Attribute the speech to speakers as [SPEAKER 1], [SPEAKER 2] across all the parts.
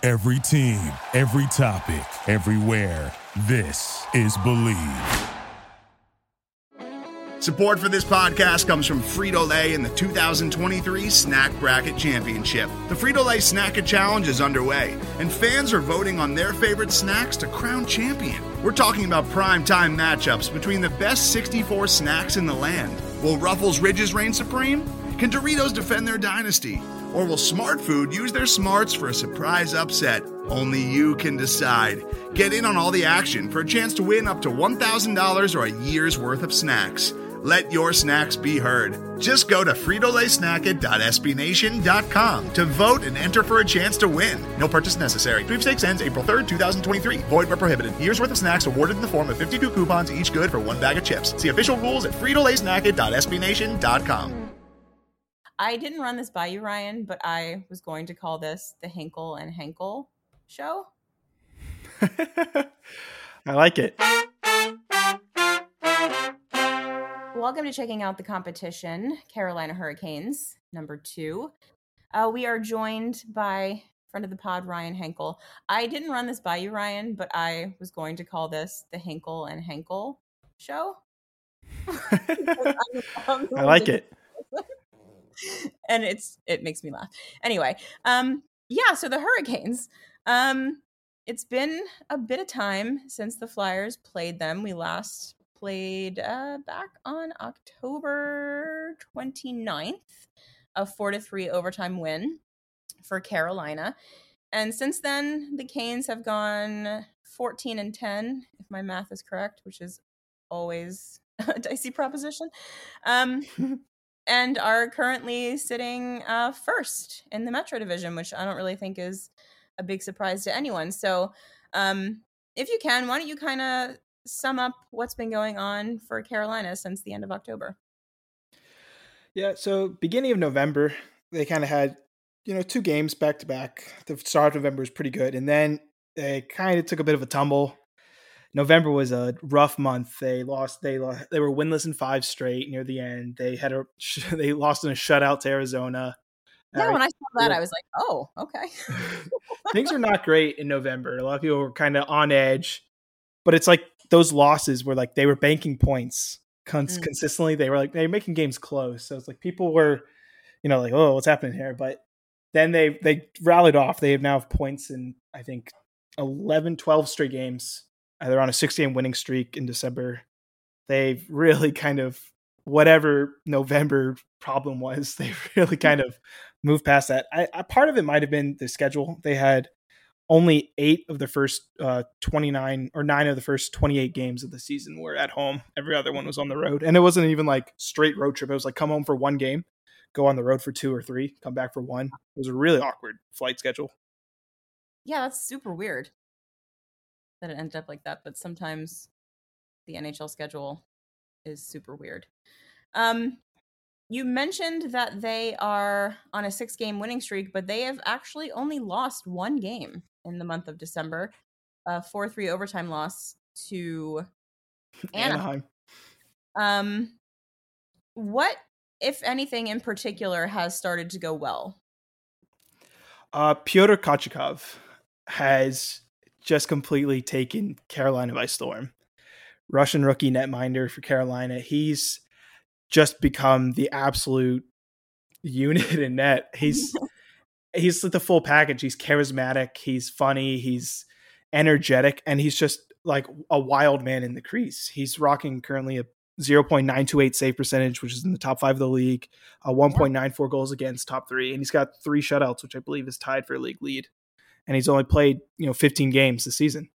[SPEAKER 1] Every team, every topic, everywhere. This is Believe.
[SPEAKER 2] Support for this podcast comes from Frito-Lay and the 2023 Snack Bracket Championship. The Frito-Lay Snack-It Challenge is underway, and fans are voting on their favorite snacks to crown champion. We're talking about prime-time matchups between the best 64 snacks in the land. Will Ruffles Ridges reign supreme? Can Doritos defend their dynasty? Or will Smart Food use their smarts for a surprise upset? Only you can decide. Get in on all the action for a chance to win up to $1,000 or a year's worth of snacks. Let your snacks be heard. Just go to fritolaysnacket.sbnation.com to vote and enter for a chance to win. No purchase necessary. Sweepstakes ends April 3rd, 2023. Void where prohibited. Year's worth of snacks awarded in the form of 52 coupons, each good for one bag of chips. See official rules at fritolaysnacket.sbnation.com.
[SPEAKER 3] I didn't run this by you, Ryan, but I was going to call this the Hinkle and Henkel show.
[SPEAKER 4] I like it.
[SPEAKER 3] Welcome to checking out the competition, Carolina Hurricanes, number 2. We are joined by friend of the pod, Ryan Henkel. I didn't run this by you, Ryan, but I was going to call this the Hinkle and Henkel show.
[SPEAKER 4] I like it.
[SPEAKER 3] And it makes me laugh. Anyway, so the Hurricanes. It's been a bit of time since the Flyers played them. We last played back on October 29th, a 4-3 overtime win for Carolina. And since then, the Canes have gone 14-10, if my math is correct, which is always a dicey proposition. And are currently sitting first in the Metro Division, which I don't really think is a big surprise to anyone. So if you can, why don't you kind of sum up what's been going on for Carolina since the end of October?
[SPEAKER 4] Yeah, so beginning of November, they kind of had, 2 games back to back. The start of November was pretty good. And then they kind of took a bit of a tumble. November was a rough month. They lost. They were winless in 5 straight near the end. They lost in a shutout to Arizona.
[SPEAKER 3] Yeah, when I saw that, I was like, "Oh, okay."
[SPEAKER 4] Things are not great in November. A lot of people were kind of on edge, but it's like those losses were like they were banking points consistently. They were making games close. So it's like people were, like, "Oh, what's happening here?" But then they rallied off. They now have points in I think 11, 12 straight games. They're on a 6-game winning streak in December. They've really kind of, whatever November problem was, they've really kind of moved past that. Part of it might have been the schedule. They had only 8 of the first 29 or 9 of the first 28 games of the season were at home. Every other one was on the road. And it wasn't even like straight road trip. It was like come home for 1 game, go on the road for 2 or 3, come back for 1. It was a really awkward flight schedule.
[SPEAKER 3] Yeah, that's super weird that it ended up like that, but sometimes the NHL schedule is super weird. You mentioned that they are on a 6-game winning streak, but they have actually only lost 1 game in the month of December, a 4-3 overtime loss to Anaheim. What, if anything, in particular has started to go well?
[SPEAKER 4] Pyotr Kochetkov has just completely taken Carolina by storm. Russian rookie netminder for Carolina. He's just become the absolute unit in net. He's the full package. He's charismatic. He's funny. He's energetic. And he's just like a wild man in the crease. He's rocking currently a 0.928 save percentage, which is in the top 5 of the league, 1.94 goals against, top 3. And he's got 3 shutouts, which I believe is tied for a league lead. And he's only played, 15 games this season.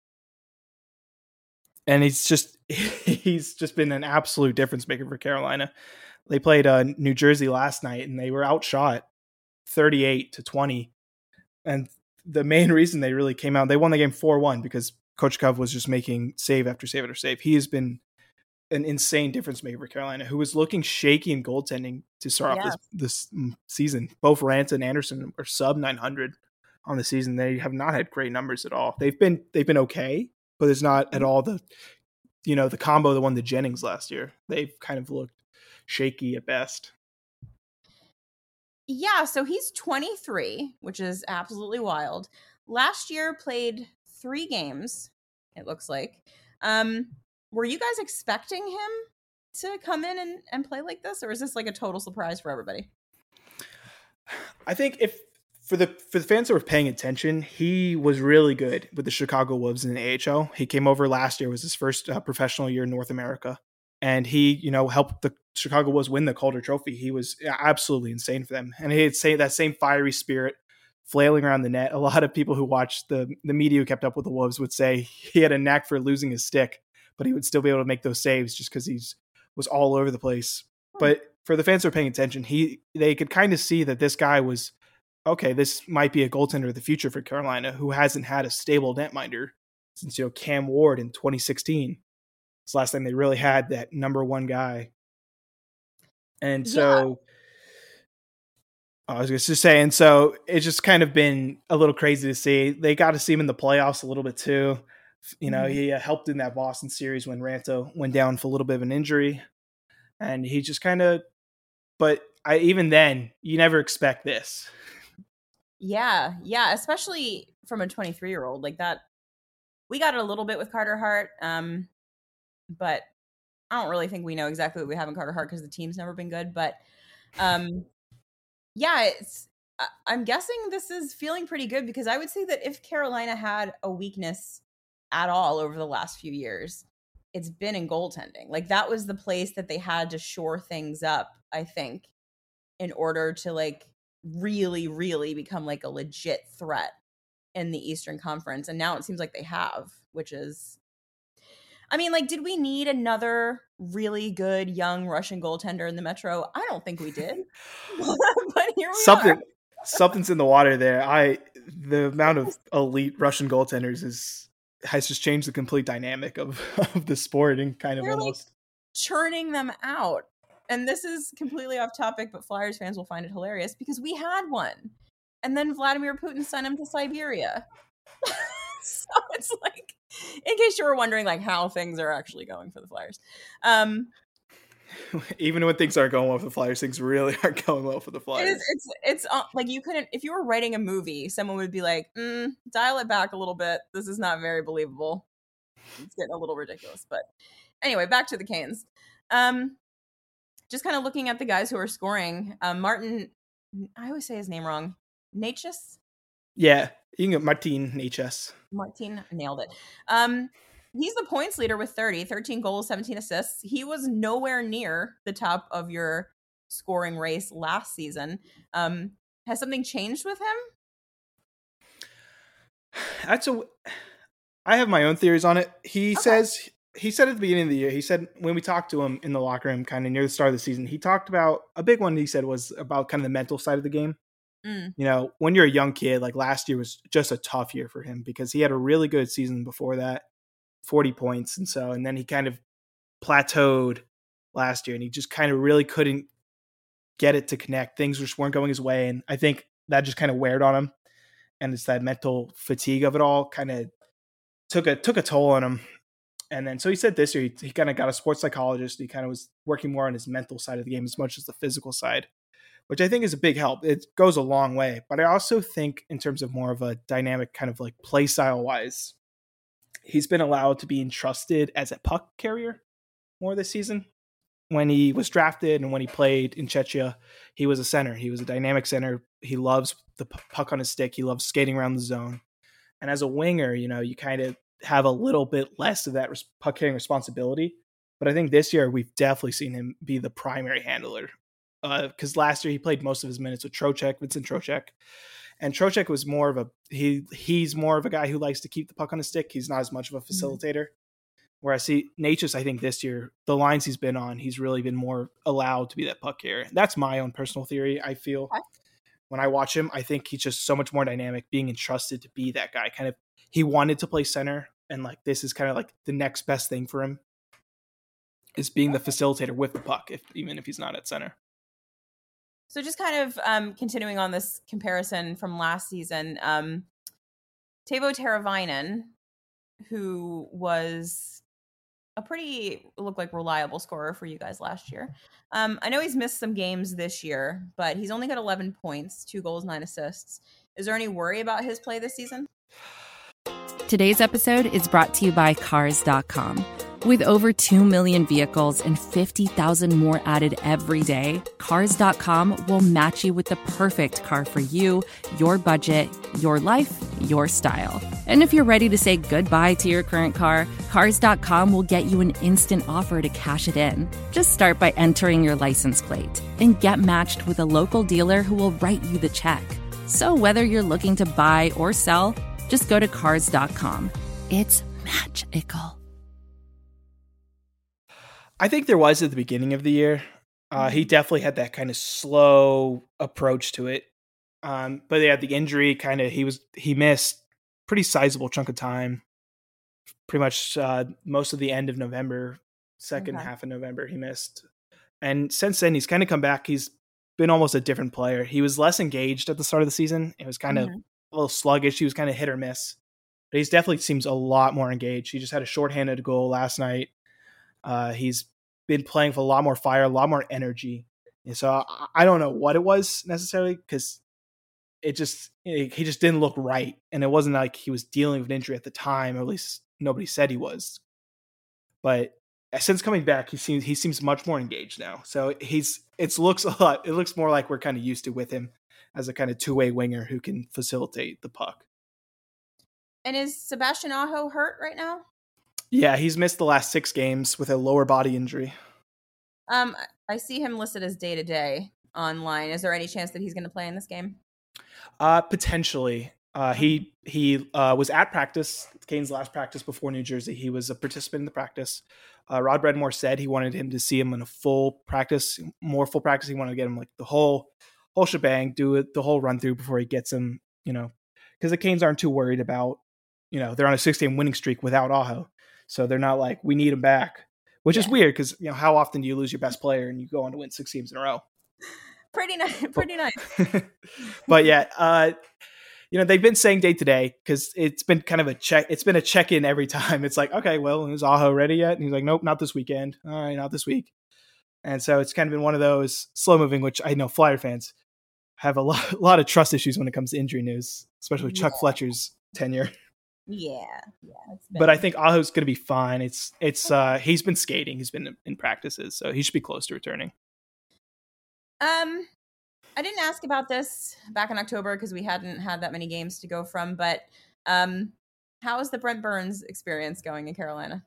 [SPEAKER 4] And he's just been an absolute difference maker for Carolina. They played New Jersey last night and they were outshot 38-20. And the main reason they really came out, they won the game 4-1 because Kochetkov was just making save after save after save. He has been an insane difference maker for Carolina, who was looking shaky in goaltending to start off this season. Both Raanta and Anderson are sub 900 on the season. They have not had great numbers at all. They've been okay, but it's not at all the combo that won the Jennings last year. They've kind of looked shaky at best.
[SPEAKER 3] Yeah, so he's 23, which is absolutely wild. last year played 3 games, it looks like. Were you guys expecting him to come in and play like this, or is this like a total surprise for everybody?
[SPEAKER 4] I think if for the fans that were paying attention, he was really good with the Chicago Wolves in the AHL. He came over last year, was his first professional year in North America, and he, helped the Chicago Wolves win the Calder Trophy. He was absolutely insane for them, and he had that same fiery spirit flailing around the net. A lot of people who watched the media who kept up with the Wolves would say he had a knack for losing his stick, but he would still be able to make those saves just because he was all over the place. But for the fans who are paying attention, they could kind of see that this guy was, okay, this might be a goaltender of the future for Carolina, who hasn't had a stable netminder since, Cam Ward in 2016. It's the last time they really had that number one guy. And so I was just saying, so it's just kind of been a little crazy to see. They got to see him in the playoffs a little bit too. He helped in that Boston series when Ranto went down for a little bit of an injury. And he just kind of, but even then, you never expect this.
[SPEAKER 3] Yeah, especially from a 23-year-old like that. We got it a little bit with Carter Hart, but I don't really think we know exactly what we have in Carter Hart because the team's never been good. But I'm guessing this is feeling pretty good, because I would say that if Carolina had a weakness at all over the last few years, it's been in goaltending. Like, that was the place that they had to shore things up, I think, in order to like really, really become like a legit threat in the Eastern Conference. And now it seems like they have, which is, I mean, like, did we need another really good young Russian goaltender in the Metro? I don't think we did. But here we are.
[SPEAKER 4] Something's in the water there. The amount of elite Russian goaltenders has just changed the complete dynamic of the sport, and kind of
[SPEAKER 3] They're
[SPEAKER 4] almost
[SPEAKER 3] like churning them out. And this is completely off topic, but Flyers fans will find it hilarious because we had one. And then Vladimir Putin sent him to Siberia. So it's like, in case you were wondering like how things are actually going for the Flyers.
[SPEAKER 4] Even when things aren't going well for the Flyers, things really aren't going well for the Flyers.
[SPEAKER 3] It's like, you couldn't, if you were writing a movie, someone would be like, dial it back a little bit. This is not very believable. It's getting a little ridiculous. But anyway, back to the Canes. Just kind of looking at the guys who are scoring. Martin, I always say his name wrong. Necas?
[SPEAKER 4] Yeah, you can get Martin Necas.
[SPEAKER 3] Martin, nailed it. He's the points leader with 13 goals, 17 assists. He was nowhere near the top of your scoring race last season. Has something changed with him?
[SPEAKER 4] I have my own theories on it. He said at the beginning of the year, he said when we talked to him in the locker room kind of near the start of the season, he talked about a big one he said was about kind of the mental side of the game. When you're a young kid, like last year was just a tough year for him because he had a really good season before that, 40 points. And then he kind of plateaued last year, and he just kind of really couldn't get it to connect. Things just weren't going his way. And I think that just kind of weared on him. And it's that mental fatigue of it all kind of took a toll on him. And then, so he said this year, he kind of got a sports psychologist. He kind of was working more on his mental side of the game as much as the physical side, which I think is a big help. It goes a long way. But I also think in terms of more of a dynamic kind of like play style wise, he's been allowed to be entrusted as a puck carrier more this season. When he was drafted and when he played in Czechia, he was a center. He was a dynamic center. He loves the puck on his stick. He loves skating around the zone. And as a winger, you kind of have a little bit less of that puck carrying responsibility. But I think this year we've definitely seen him be the primary handler. Because last year he played most of his minutes with Vincent Trocheck. And Trocheck was more of he's more of a guy who likes to keep the puck on his stick. He's not as much of a facilitator. Whereas Necas, I think this year, the lines he's been on, he's really been more allowed to be that puck carrier. That's my own personal theory. I feel when I watch him, I think he's just so much more dynamic, being entrusted to be that guy. Kind of, he wanted to play center, and like this is kind of like the next best thing for him is being the facilitator with the puck, even if he's not at center.
[SPEAKER 3] So just kind of continuing on this comparison from last season, Teuvo Teravainen, who was looked like reliable scorer for you guys last year. I know he's missed some games this year, but he's only got 11 points, 2 goals, 9 assists. Is there any worry about his play this season?
[SPEAKER 5] Today's episode is brought to you by Cars.com. With over 2 million vehicles and 50,000 more added every day, Cars.com will match you with the perfect car for you, your budget, your life, your style. And if you're ready to say goodbye to your current car, Cars.com will get you an instant offer to cash it in. Just start by entering your license plate and get matched with a local dealer who will write you the check. So whether you're looking to buy or sell, just go to Cars.com. It's magical.
[SPEAKER 4] I think there was at the beginning of the year. He definitely had that kind of slow approach to it. But yeah, the injury he missed pretty sizable chunk of time. Pretty much most of the end of November, second half of November he missed. And since then he's kind of come back. He's been almost a different player. He was less engaged at the start of the season. It was kind of a little sluggish. He was kind of hit or miss. But he's definitely seems a lot more engaged. He just had a shorthanded goal last night. He's been playing with a lot more fire, a lot more energy. And so I don't know what it was necessarily, because he just didn't look right. And it wasn't like he was dealing with an injury at the time, or at least nobody said he was. But since coming back, he seems much more engaged now. So it looks more like we're kind of used to with him as a kind of two-way winger who can facilitate the puck.
[SPEAKER 3] And is Sebastian Aho hurt right now?
[SPEAKER 4] Yeah, he's missed the last 6 games with a lower body injury.
[SPEAKER 3] I see him listed as day-to-day online. Is there any chance that he's going to play in this game?
[SPEAKER 4] Potentially. He was at practice, Kane's last practice before New Jersey. He was a participant in the practice. Rod Bredmore said he wanted him to see him in a full practice. He wanted to get him like the whole shebang, do it the whole run through before he gets him, because the Canes aren't too worried about, they're on a 6-game winning streak without Aho. So they're not like, we need him back, which is weird because, how often do you lose your best player and you go on to win 6 games in a row?
[SPEAKER 3] Pretty nice.
[SPEAKER 4] But yeah, they've been saying day to day because it's been kind of a check. It's been a check-in every time. It's like, okay, well, is Aho ready yet? And he's like, nope, not this weekend. All right, not this week. And so it's kind of been one of those slow moving, which I know Flyer fans have a lot of trust issues when it comes to injury news, especially Chuck Fletcher's tenure.
[SPEAKER 3] Yeah.
[SPEAKER 4] But I think Aho's going to be fine. It's he's been skating. He's been in practices, so he should be close to returning.
[SPEAKER 3] I didn't ask about this back in October because we hadn't had that many games to go from, but how is the Brent Burns experience going in Carolina?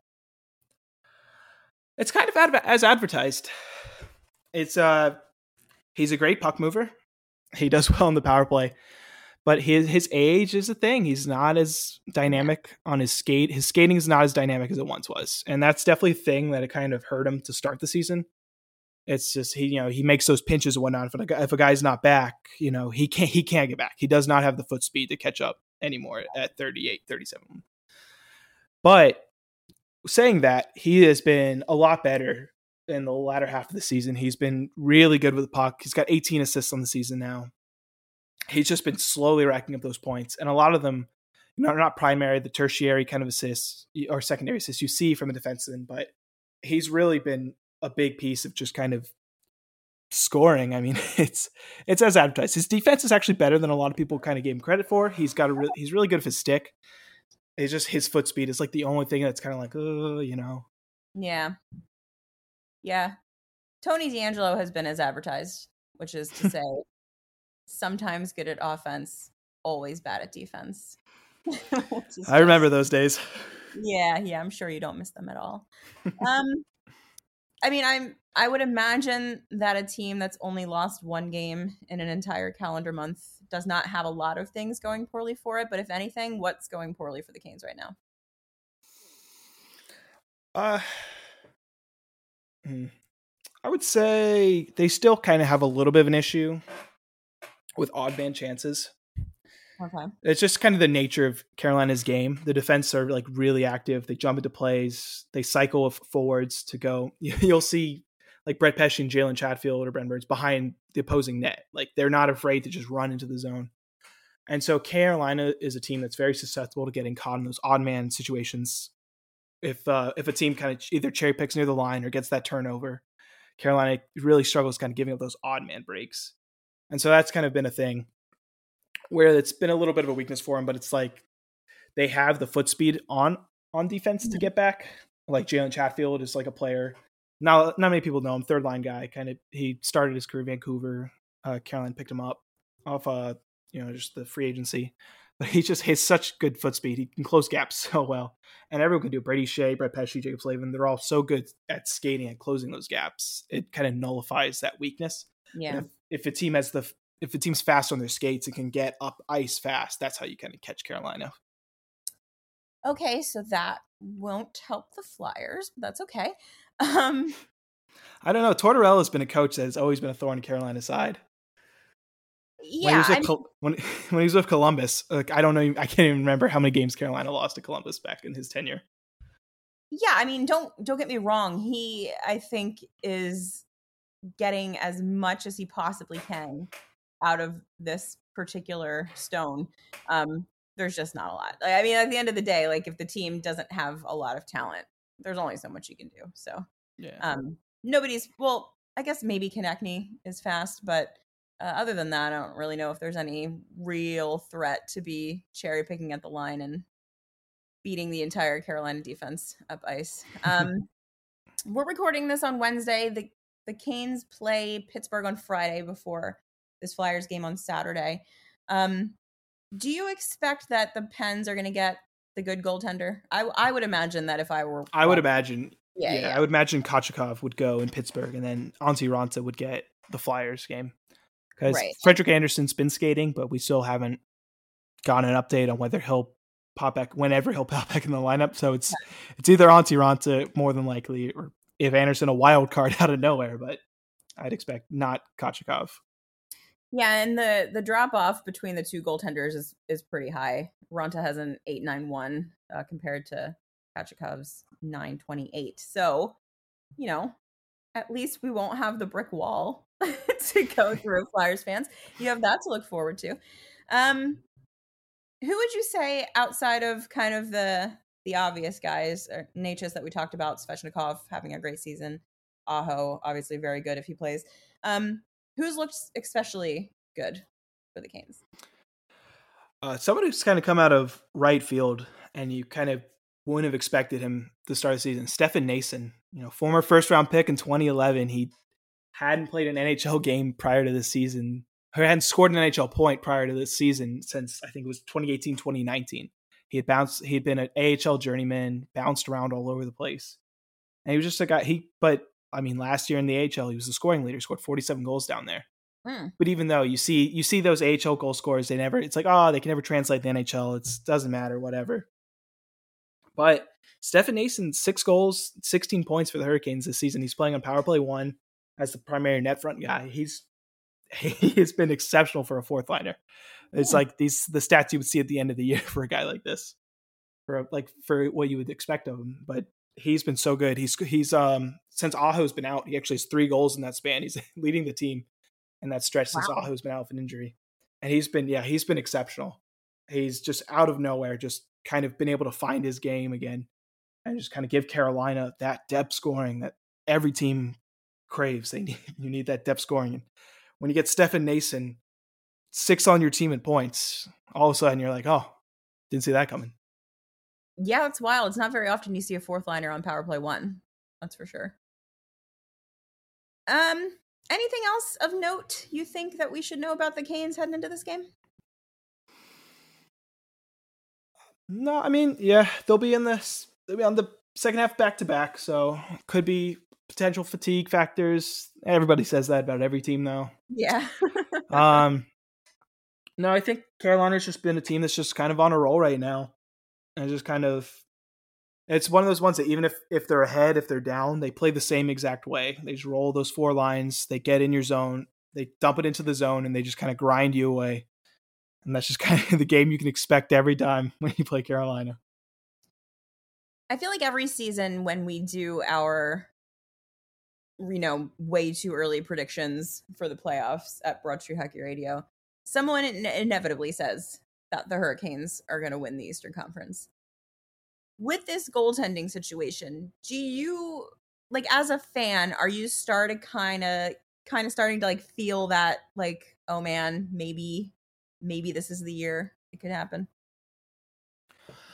[SPEAKER 4] It's kind of as advertised. It's he's a great puck mover. He does well in the power play. But his age is a thing. He's not as dynamic on his skate. His skating is not as dynamic as it once was. And that's definitely a thing that it kind of hurt him to start the season. It's just, he makes those pinches and whatnot. If a guy's not back, he can't get back. He does not have the foot speed to catch up anymore at 38, 37. But saying that, he has been a lot better in the latter half of the season. He's been really good with the puck. He's got 18 assists on the season now. He's just been slowly racking up those points. And a lot of them, not primary, the tertiary kind of assists or secondary assists you see from a defenseman, but he's really been a big piece of just kind of scoring. I mean, it's as advertised. His defense is actually better than a lot of people kind of gave him credit for. He's really good with his stick. It's just his foot speed is like the only thing that's kind of like,
[SPEAKER 3] Yeah. Tony DeAngelo has been as advertised, which is to say sometimes good at offense, always bad at defense.
[SPEAKER 4] I remember those days.
[SPEAKER 3] Yeah, I'm sure you don't miss them at all. I would imagine that a team that's only lost 1 game in an entire calendar month does not have a lot of things going poorly for it. But if anything, what's going poorly for the Canes right now?
[SPEAKER 4] I would say they still kind of have a little bit of an issue with odd man chances.
[SPEAKER 3] Okay.
[SPEAKER 4] It's just kind of the nature of Carolina's game. The defense are like really active. They jump into plays. They cycle with forwards to go. You'll see like Brett Pesce and Jalen Chatfield or Brent Burns behind the opposing net. Like they're not afraid to just run into the zone. And so Carolina is a team that's very susceptible to getting caught in those odd man situations. If a team kind of either cherry picks near the line or gets that turnover, Carolina really struggles kind of giving up those odd man breaks. And so that's kind of been a thing where it's been a little bit of a weakness for him, but it's like they have the foot speed on defense to get back. Like Jalen Chatfield is like a player. Not many people know him. Third line guy. He started his career in Vancouver. Carolina picked him up off just the free agency. But he just has such good foot speed. He can close gaps so well. And everyone can do it. Brady Shea, Brett Pesce, Jacob Slavin. They're all so good at skating and closing those gaps. It kind of nullifies that weakness.
[SPEAKER 3] Yeah.
[SPEAKER 4] If a team has if the team's fast on their skates and can get up ice fast, that's how you kind of catch Carolina.
[SPEAKER 3] Okay, so that won't help the Flyers, but that's okay.
[SPEAKER 4] I don't know. Tortorella has been a coach that has always been a thorn in Carolina's side.
[SPEAKER 3] Yeah,
[SPEAKER 4] when he was with Columbus, I don't know. I can't even remember how many games Carolina lost to Columbus back in his tenure.
[SPEAKER 3] Yeah, I mean, don't get me wrong. He, I think, is getting as much as he possibly can out of this particular stone. There's just not a lot. I mean, at the end of the day, like if the team doesn't have a lot of talent, there's only so much you can do. So,
[SPEAKER 4] yeah.
[SPEAKER 3] Well, I guess maybe Konechny is fast, but other than that, I don't really know if there's any real threat to be cherry picking at the line and beating the entire Carolina defense up ice. We're recording this on Wednesday. The Canes play Pittsburgh on Friday before this Flyers game on Saturday. Do you expect that the Pens are going to get the good goaltender? I would imagine that if I were...
[SPEAKER 4] I would imagine.
[SPEAKER 3] Yeah.
[SPEAKER 4] I would imagine Kochetkov would go in Pittsburgh and then Antti Raanta would get the Flyers game. Because Frederik Andersen's been skating, but we still haven't gotten an update on whether he'll pop back, whenever he'll pop back in the lineup. So it's either Antti Raanta more than likely, or if Andersen a wild card out of nowhere, but I'd expect not Kochetkov. Yeah,
[SPEAKER 3] and the drop off between the two goaltenders is pretty high. Raanta has an 8.91 compared to Kochetkov's 9.28. So, at least we won't have the brick wall to go through, Flyers fans. You have that to look forward to. Who would you say, outside of kind of the obvious guys, or Necas that we talked about, Svechnikov having a great season, Aho obviously very good if he plays, who's looked especially good for the Canes?
[SPEAKER 4] Someone who's kind of come out of right field and you kind of wouldn't have expected him to start the season, Stefan Noesen, former first round pick in 2011. He hadn't played an NHL game prior to this season, or hadn't scored an NHL point prior to this season since I think it was 2018, 2019. He had been an AHL journeyman, bounced around all over the place. And he was just a guy, last year in the AHL, he was the scoring leader, scored 47 goals down there. But even though you see those AHL goal scorers, it's like, they can never translate the NHL. It doesn't matter, whatever. But Stefan Noesen, 6 goals, 16 points for the Hurricanes this season. He's playing on power play 1 as the primary net front guy. He has been exceptional for a fourth liner. It's like the stats you would see at the end of the year for a guy like this, for what you would expect of him. But he's been so good. He's since Aho's been out, he actually has 3 goals in that span. He's leading the team in that stretch since Aho's been out with an injury. And he's been exceptional. He's just out of nowhere, just kind of been able to find his game again and just kind of give Carolina that depth scoring that every team craves. You need that depth scoring. And when you get Stefan Noesen 6 on your team in points, all of a sudden you're like, didn't see that coming.
[SPEAKER 3] Yeah, that's wild. It's not very often you see a fourth liner on power play 1. That's for sure. Anything else of note you think that we should know about the Canes heading into this game?
[SPEAKER 4] No, they'll be on the second half back-to-back, so could be potential fatigue factors. Everybody says that about every team, though.
[SPEAKER 3] Yeah.
[SPEAKER 4] No, I think Carolina's just been a team that's just kind of on a roll right now. And just kind of, it's one of those ones that even if they're ahead, if they're down, they play the same exact way. They just roll those 4 lines, they get in your zone, they dump it into the zone, and they just kind of grind you away. And that's just kind of the game you can expect every time when you play Carolina.
[SPEAKER 3] I feel like every season when we do our, way too early predictions for the playoffs at Broad Street Hockey Radio, someone inevitably says that the Hurricanes are going to win the Eastern Conference. With this goaltending situation, do you, as a fan, are you starting to feel that, oh man, maybe this is the year it could happen?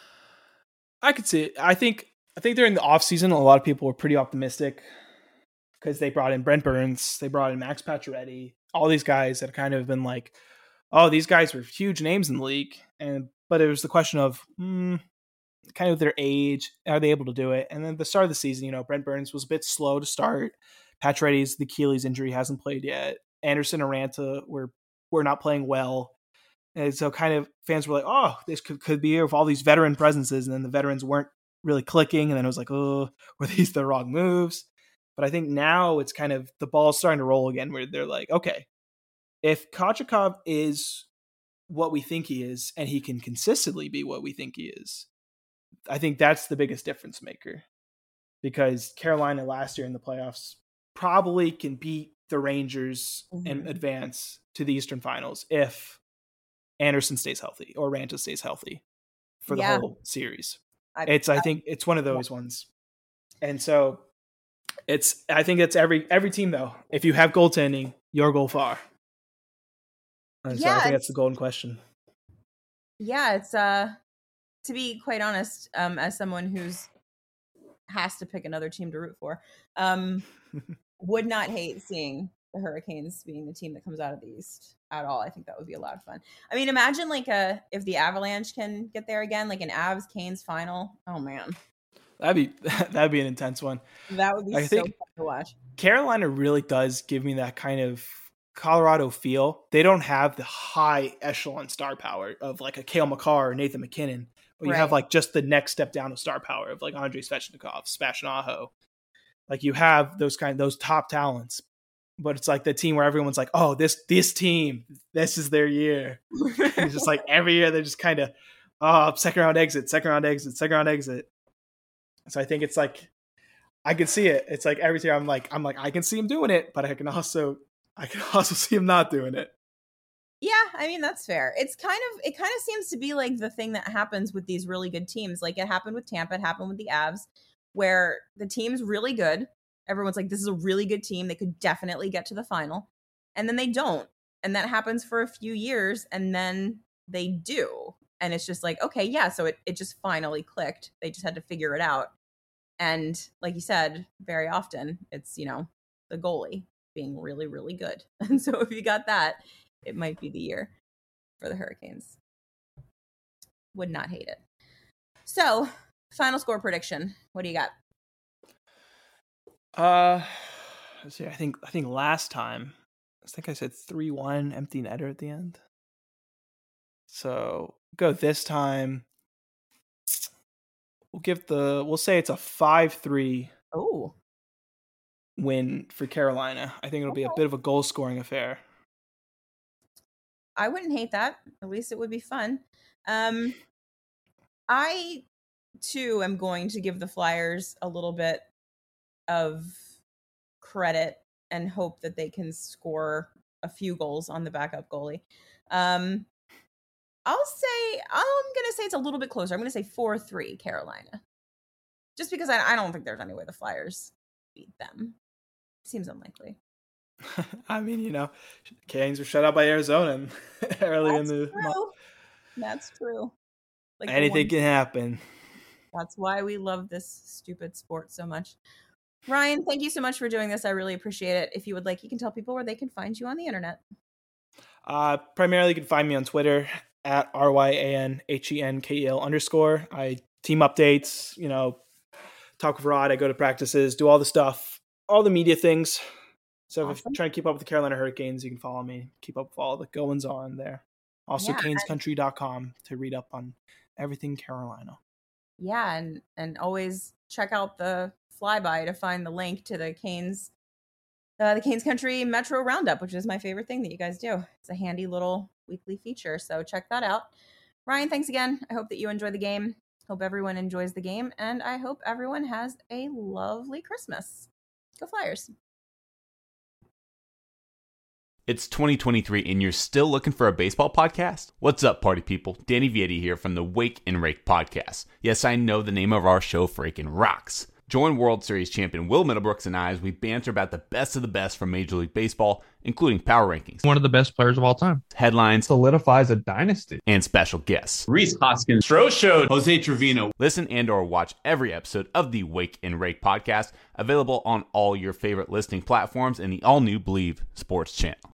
[SPEAKER 4] I could see it. I think during the offseason, a lot of people were pretty optimistic because they brought in Brent Burns, they brought in Max Pacioretty, all these guys that kind of been like, oh, these guys were huge names in the league, but it was the question of kind of their age, are they able to do it? And then the start of the season, Brent Burns was a bit slow to start. Pacioretty's the Achilles injury, hasn't played yet. Anderson and Raanta were not playing well. And so kind of fans were like, oh, this could be with all these veteran presences. And then the veterans weren't really clicking. And then it was like, oh, were these the wrong moves? But I think now it's kind of the ball's starting to roll again where they're like, okay, if Kochetkov is what we think he is and he can consistently be what we think he is, I think that's the biggest difference maker. Because Carolina last year in the playoffs probably can beat the Rangers and advance to the Eastern Finals if Anderson stays healthy or Raanta stays healthy for the whole series. I think it's one of those ones. And so I think it's every team though. If you have goaltending, you'll go far. And so I think that's the golden question.
[SPEAKER 3] Yeah, it's to be quite honest, as someone who's has to pick another team to root for, would not hate seeing the Hurricanes being the team that comes out of the East at all. I think that would be a lot of fun. I mean, imagine if the Avalanche can get there again, like an Avs Canes final. Oh man,
[SPEAKER 4] that'd be an intense one.
[SPEAKER 3] That would be so fun to watch.
[SPEAKER 4] Carolina really does give me that kind of Colorado feel. They don't have the high echelon star power of like a Cale Makar or Nathan McKinnon, but you have like just the next step down of star power of like Andrei Svechnikov, Sebastian Aho. Like you have those top talents, but it's like the team where everyone's like, oh, this team, this is their year. It's just like every year they're just kind of, second round exit. So I think it's like, I can see it. It's like every year I'm like, I can see him doing it, but I can also see him not doing it.
[SPEAKER 3] Yeah, I mean, that's fair. It kind of seems to be like the thing that happens with these really good teams. Like it happened with Tampa, it happened with the Avs, where the team's really good. Everyone's like, this is a really good team. They could definitely get to the final. And then they don't. And that happens for a few years. And then they do. And it's just like, okay, yeah. So it just finally clicked. They just had to figure it out. And like you said, very often it's, the goalie being really, really good. And so if you got that, it might be the year for the Hurricanes. Would not hate it. So, final score prediction. What do you got?
[SPEAKER 4] Let's see. I think last time, I said 3-1, empty netter at the end. So go this time. We'll say it's a 5-3 win for Carolina. I think it'll be a bit of a goal scoring affair.
[SPEAKER 3] I wouldn't hate that. At least it would be fun. I too am going to give the Flyers a little bit of credit and hope that they can score a few goals on the backup goalie. I'm going to say it's a little bit closer. I'm going to say 4-3 Carolina. Just because I don't think there's any way the Flyers beat them. Seems unlikely.
[SPEAKER 4] I mean, Canes were shut out by Arizona early in the month.
[SPEAKER 3] That's true. Like
[SPEAKER 4] anything can happen.
[SPEAKER 3] That's why we love this stupid sport so much. Ryan, thank you so much for doing this. I really appreciate it. If you would like, you can tell people where they can find you on the internet.
[SPEAKER 4] Primarily, you can find me on Twitter at RYANHENKEL_. I team updates, talk with Rod. I go to practices, do all the stuff, all the media things. So awesome. If you're trying to keep up with the Carolina Hurricanes, you can follow me, keep up with all the goings on there. Also, canescountry.com to read up on everything Carolina.
[SPEAKER 3] Yeah, and always check out the flyby to find the link to the Canes Country Metro Roundup, which is my favorite thing that you guys do. It's a handy little weekly feature, so check that out. Ryan, thanks again. I hope that you enjoy the game. Hope everyone enjoys the game, and I hope everyone has a lovely Christmas. Go Flyers.
[SPEAKER 6] It's 2023 and you're still looking for a baseball podcast? What's up, party people? Danny Vietti here from the Wake and Rake podcast. Yes, I know the name of our show freaking rocks. Join World Series champion Will Middlebrooks and I as we banter about the best of the best from Major League Baseball, including power rankings,
[SPEAKER 7] one of the best players of all time,
[SPEAKER 6] headlines,
[SPEAKER 7] solidifies a dynasty,
[SPEAKER 6] and special guests.
[SPEAKER 8] Rhys Hoskins, Stro Show, Jose Trevino.
[SPEAKER 6] Listen and or watch every episode of the Wake and Rake podcast, available on all your favorite listening platforms and the all-new Believe Sports channel.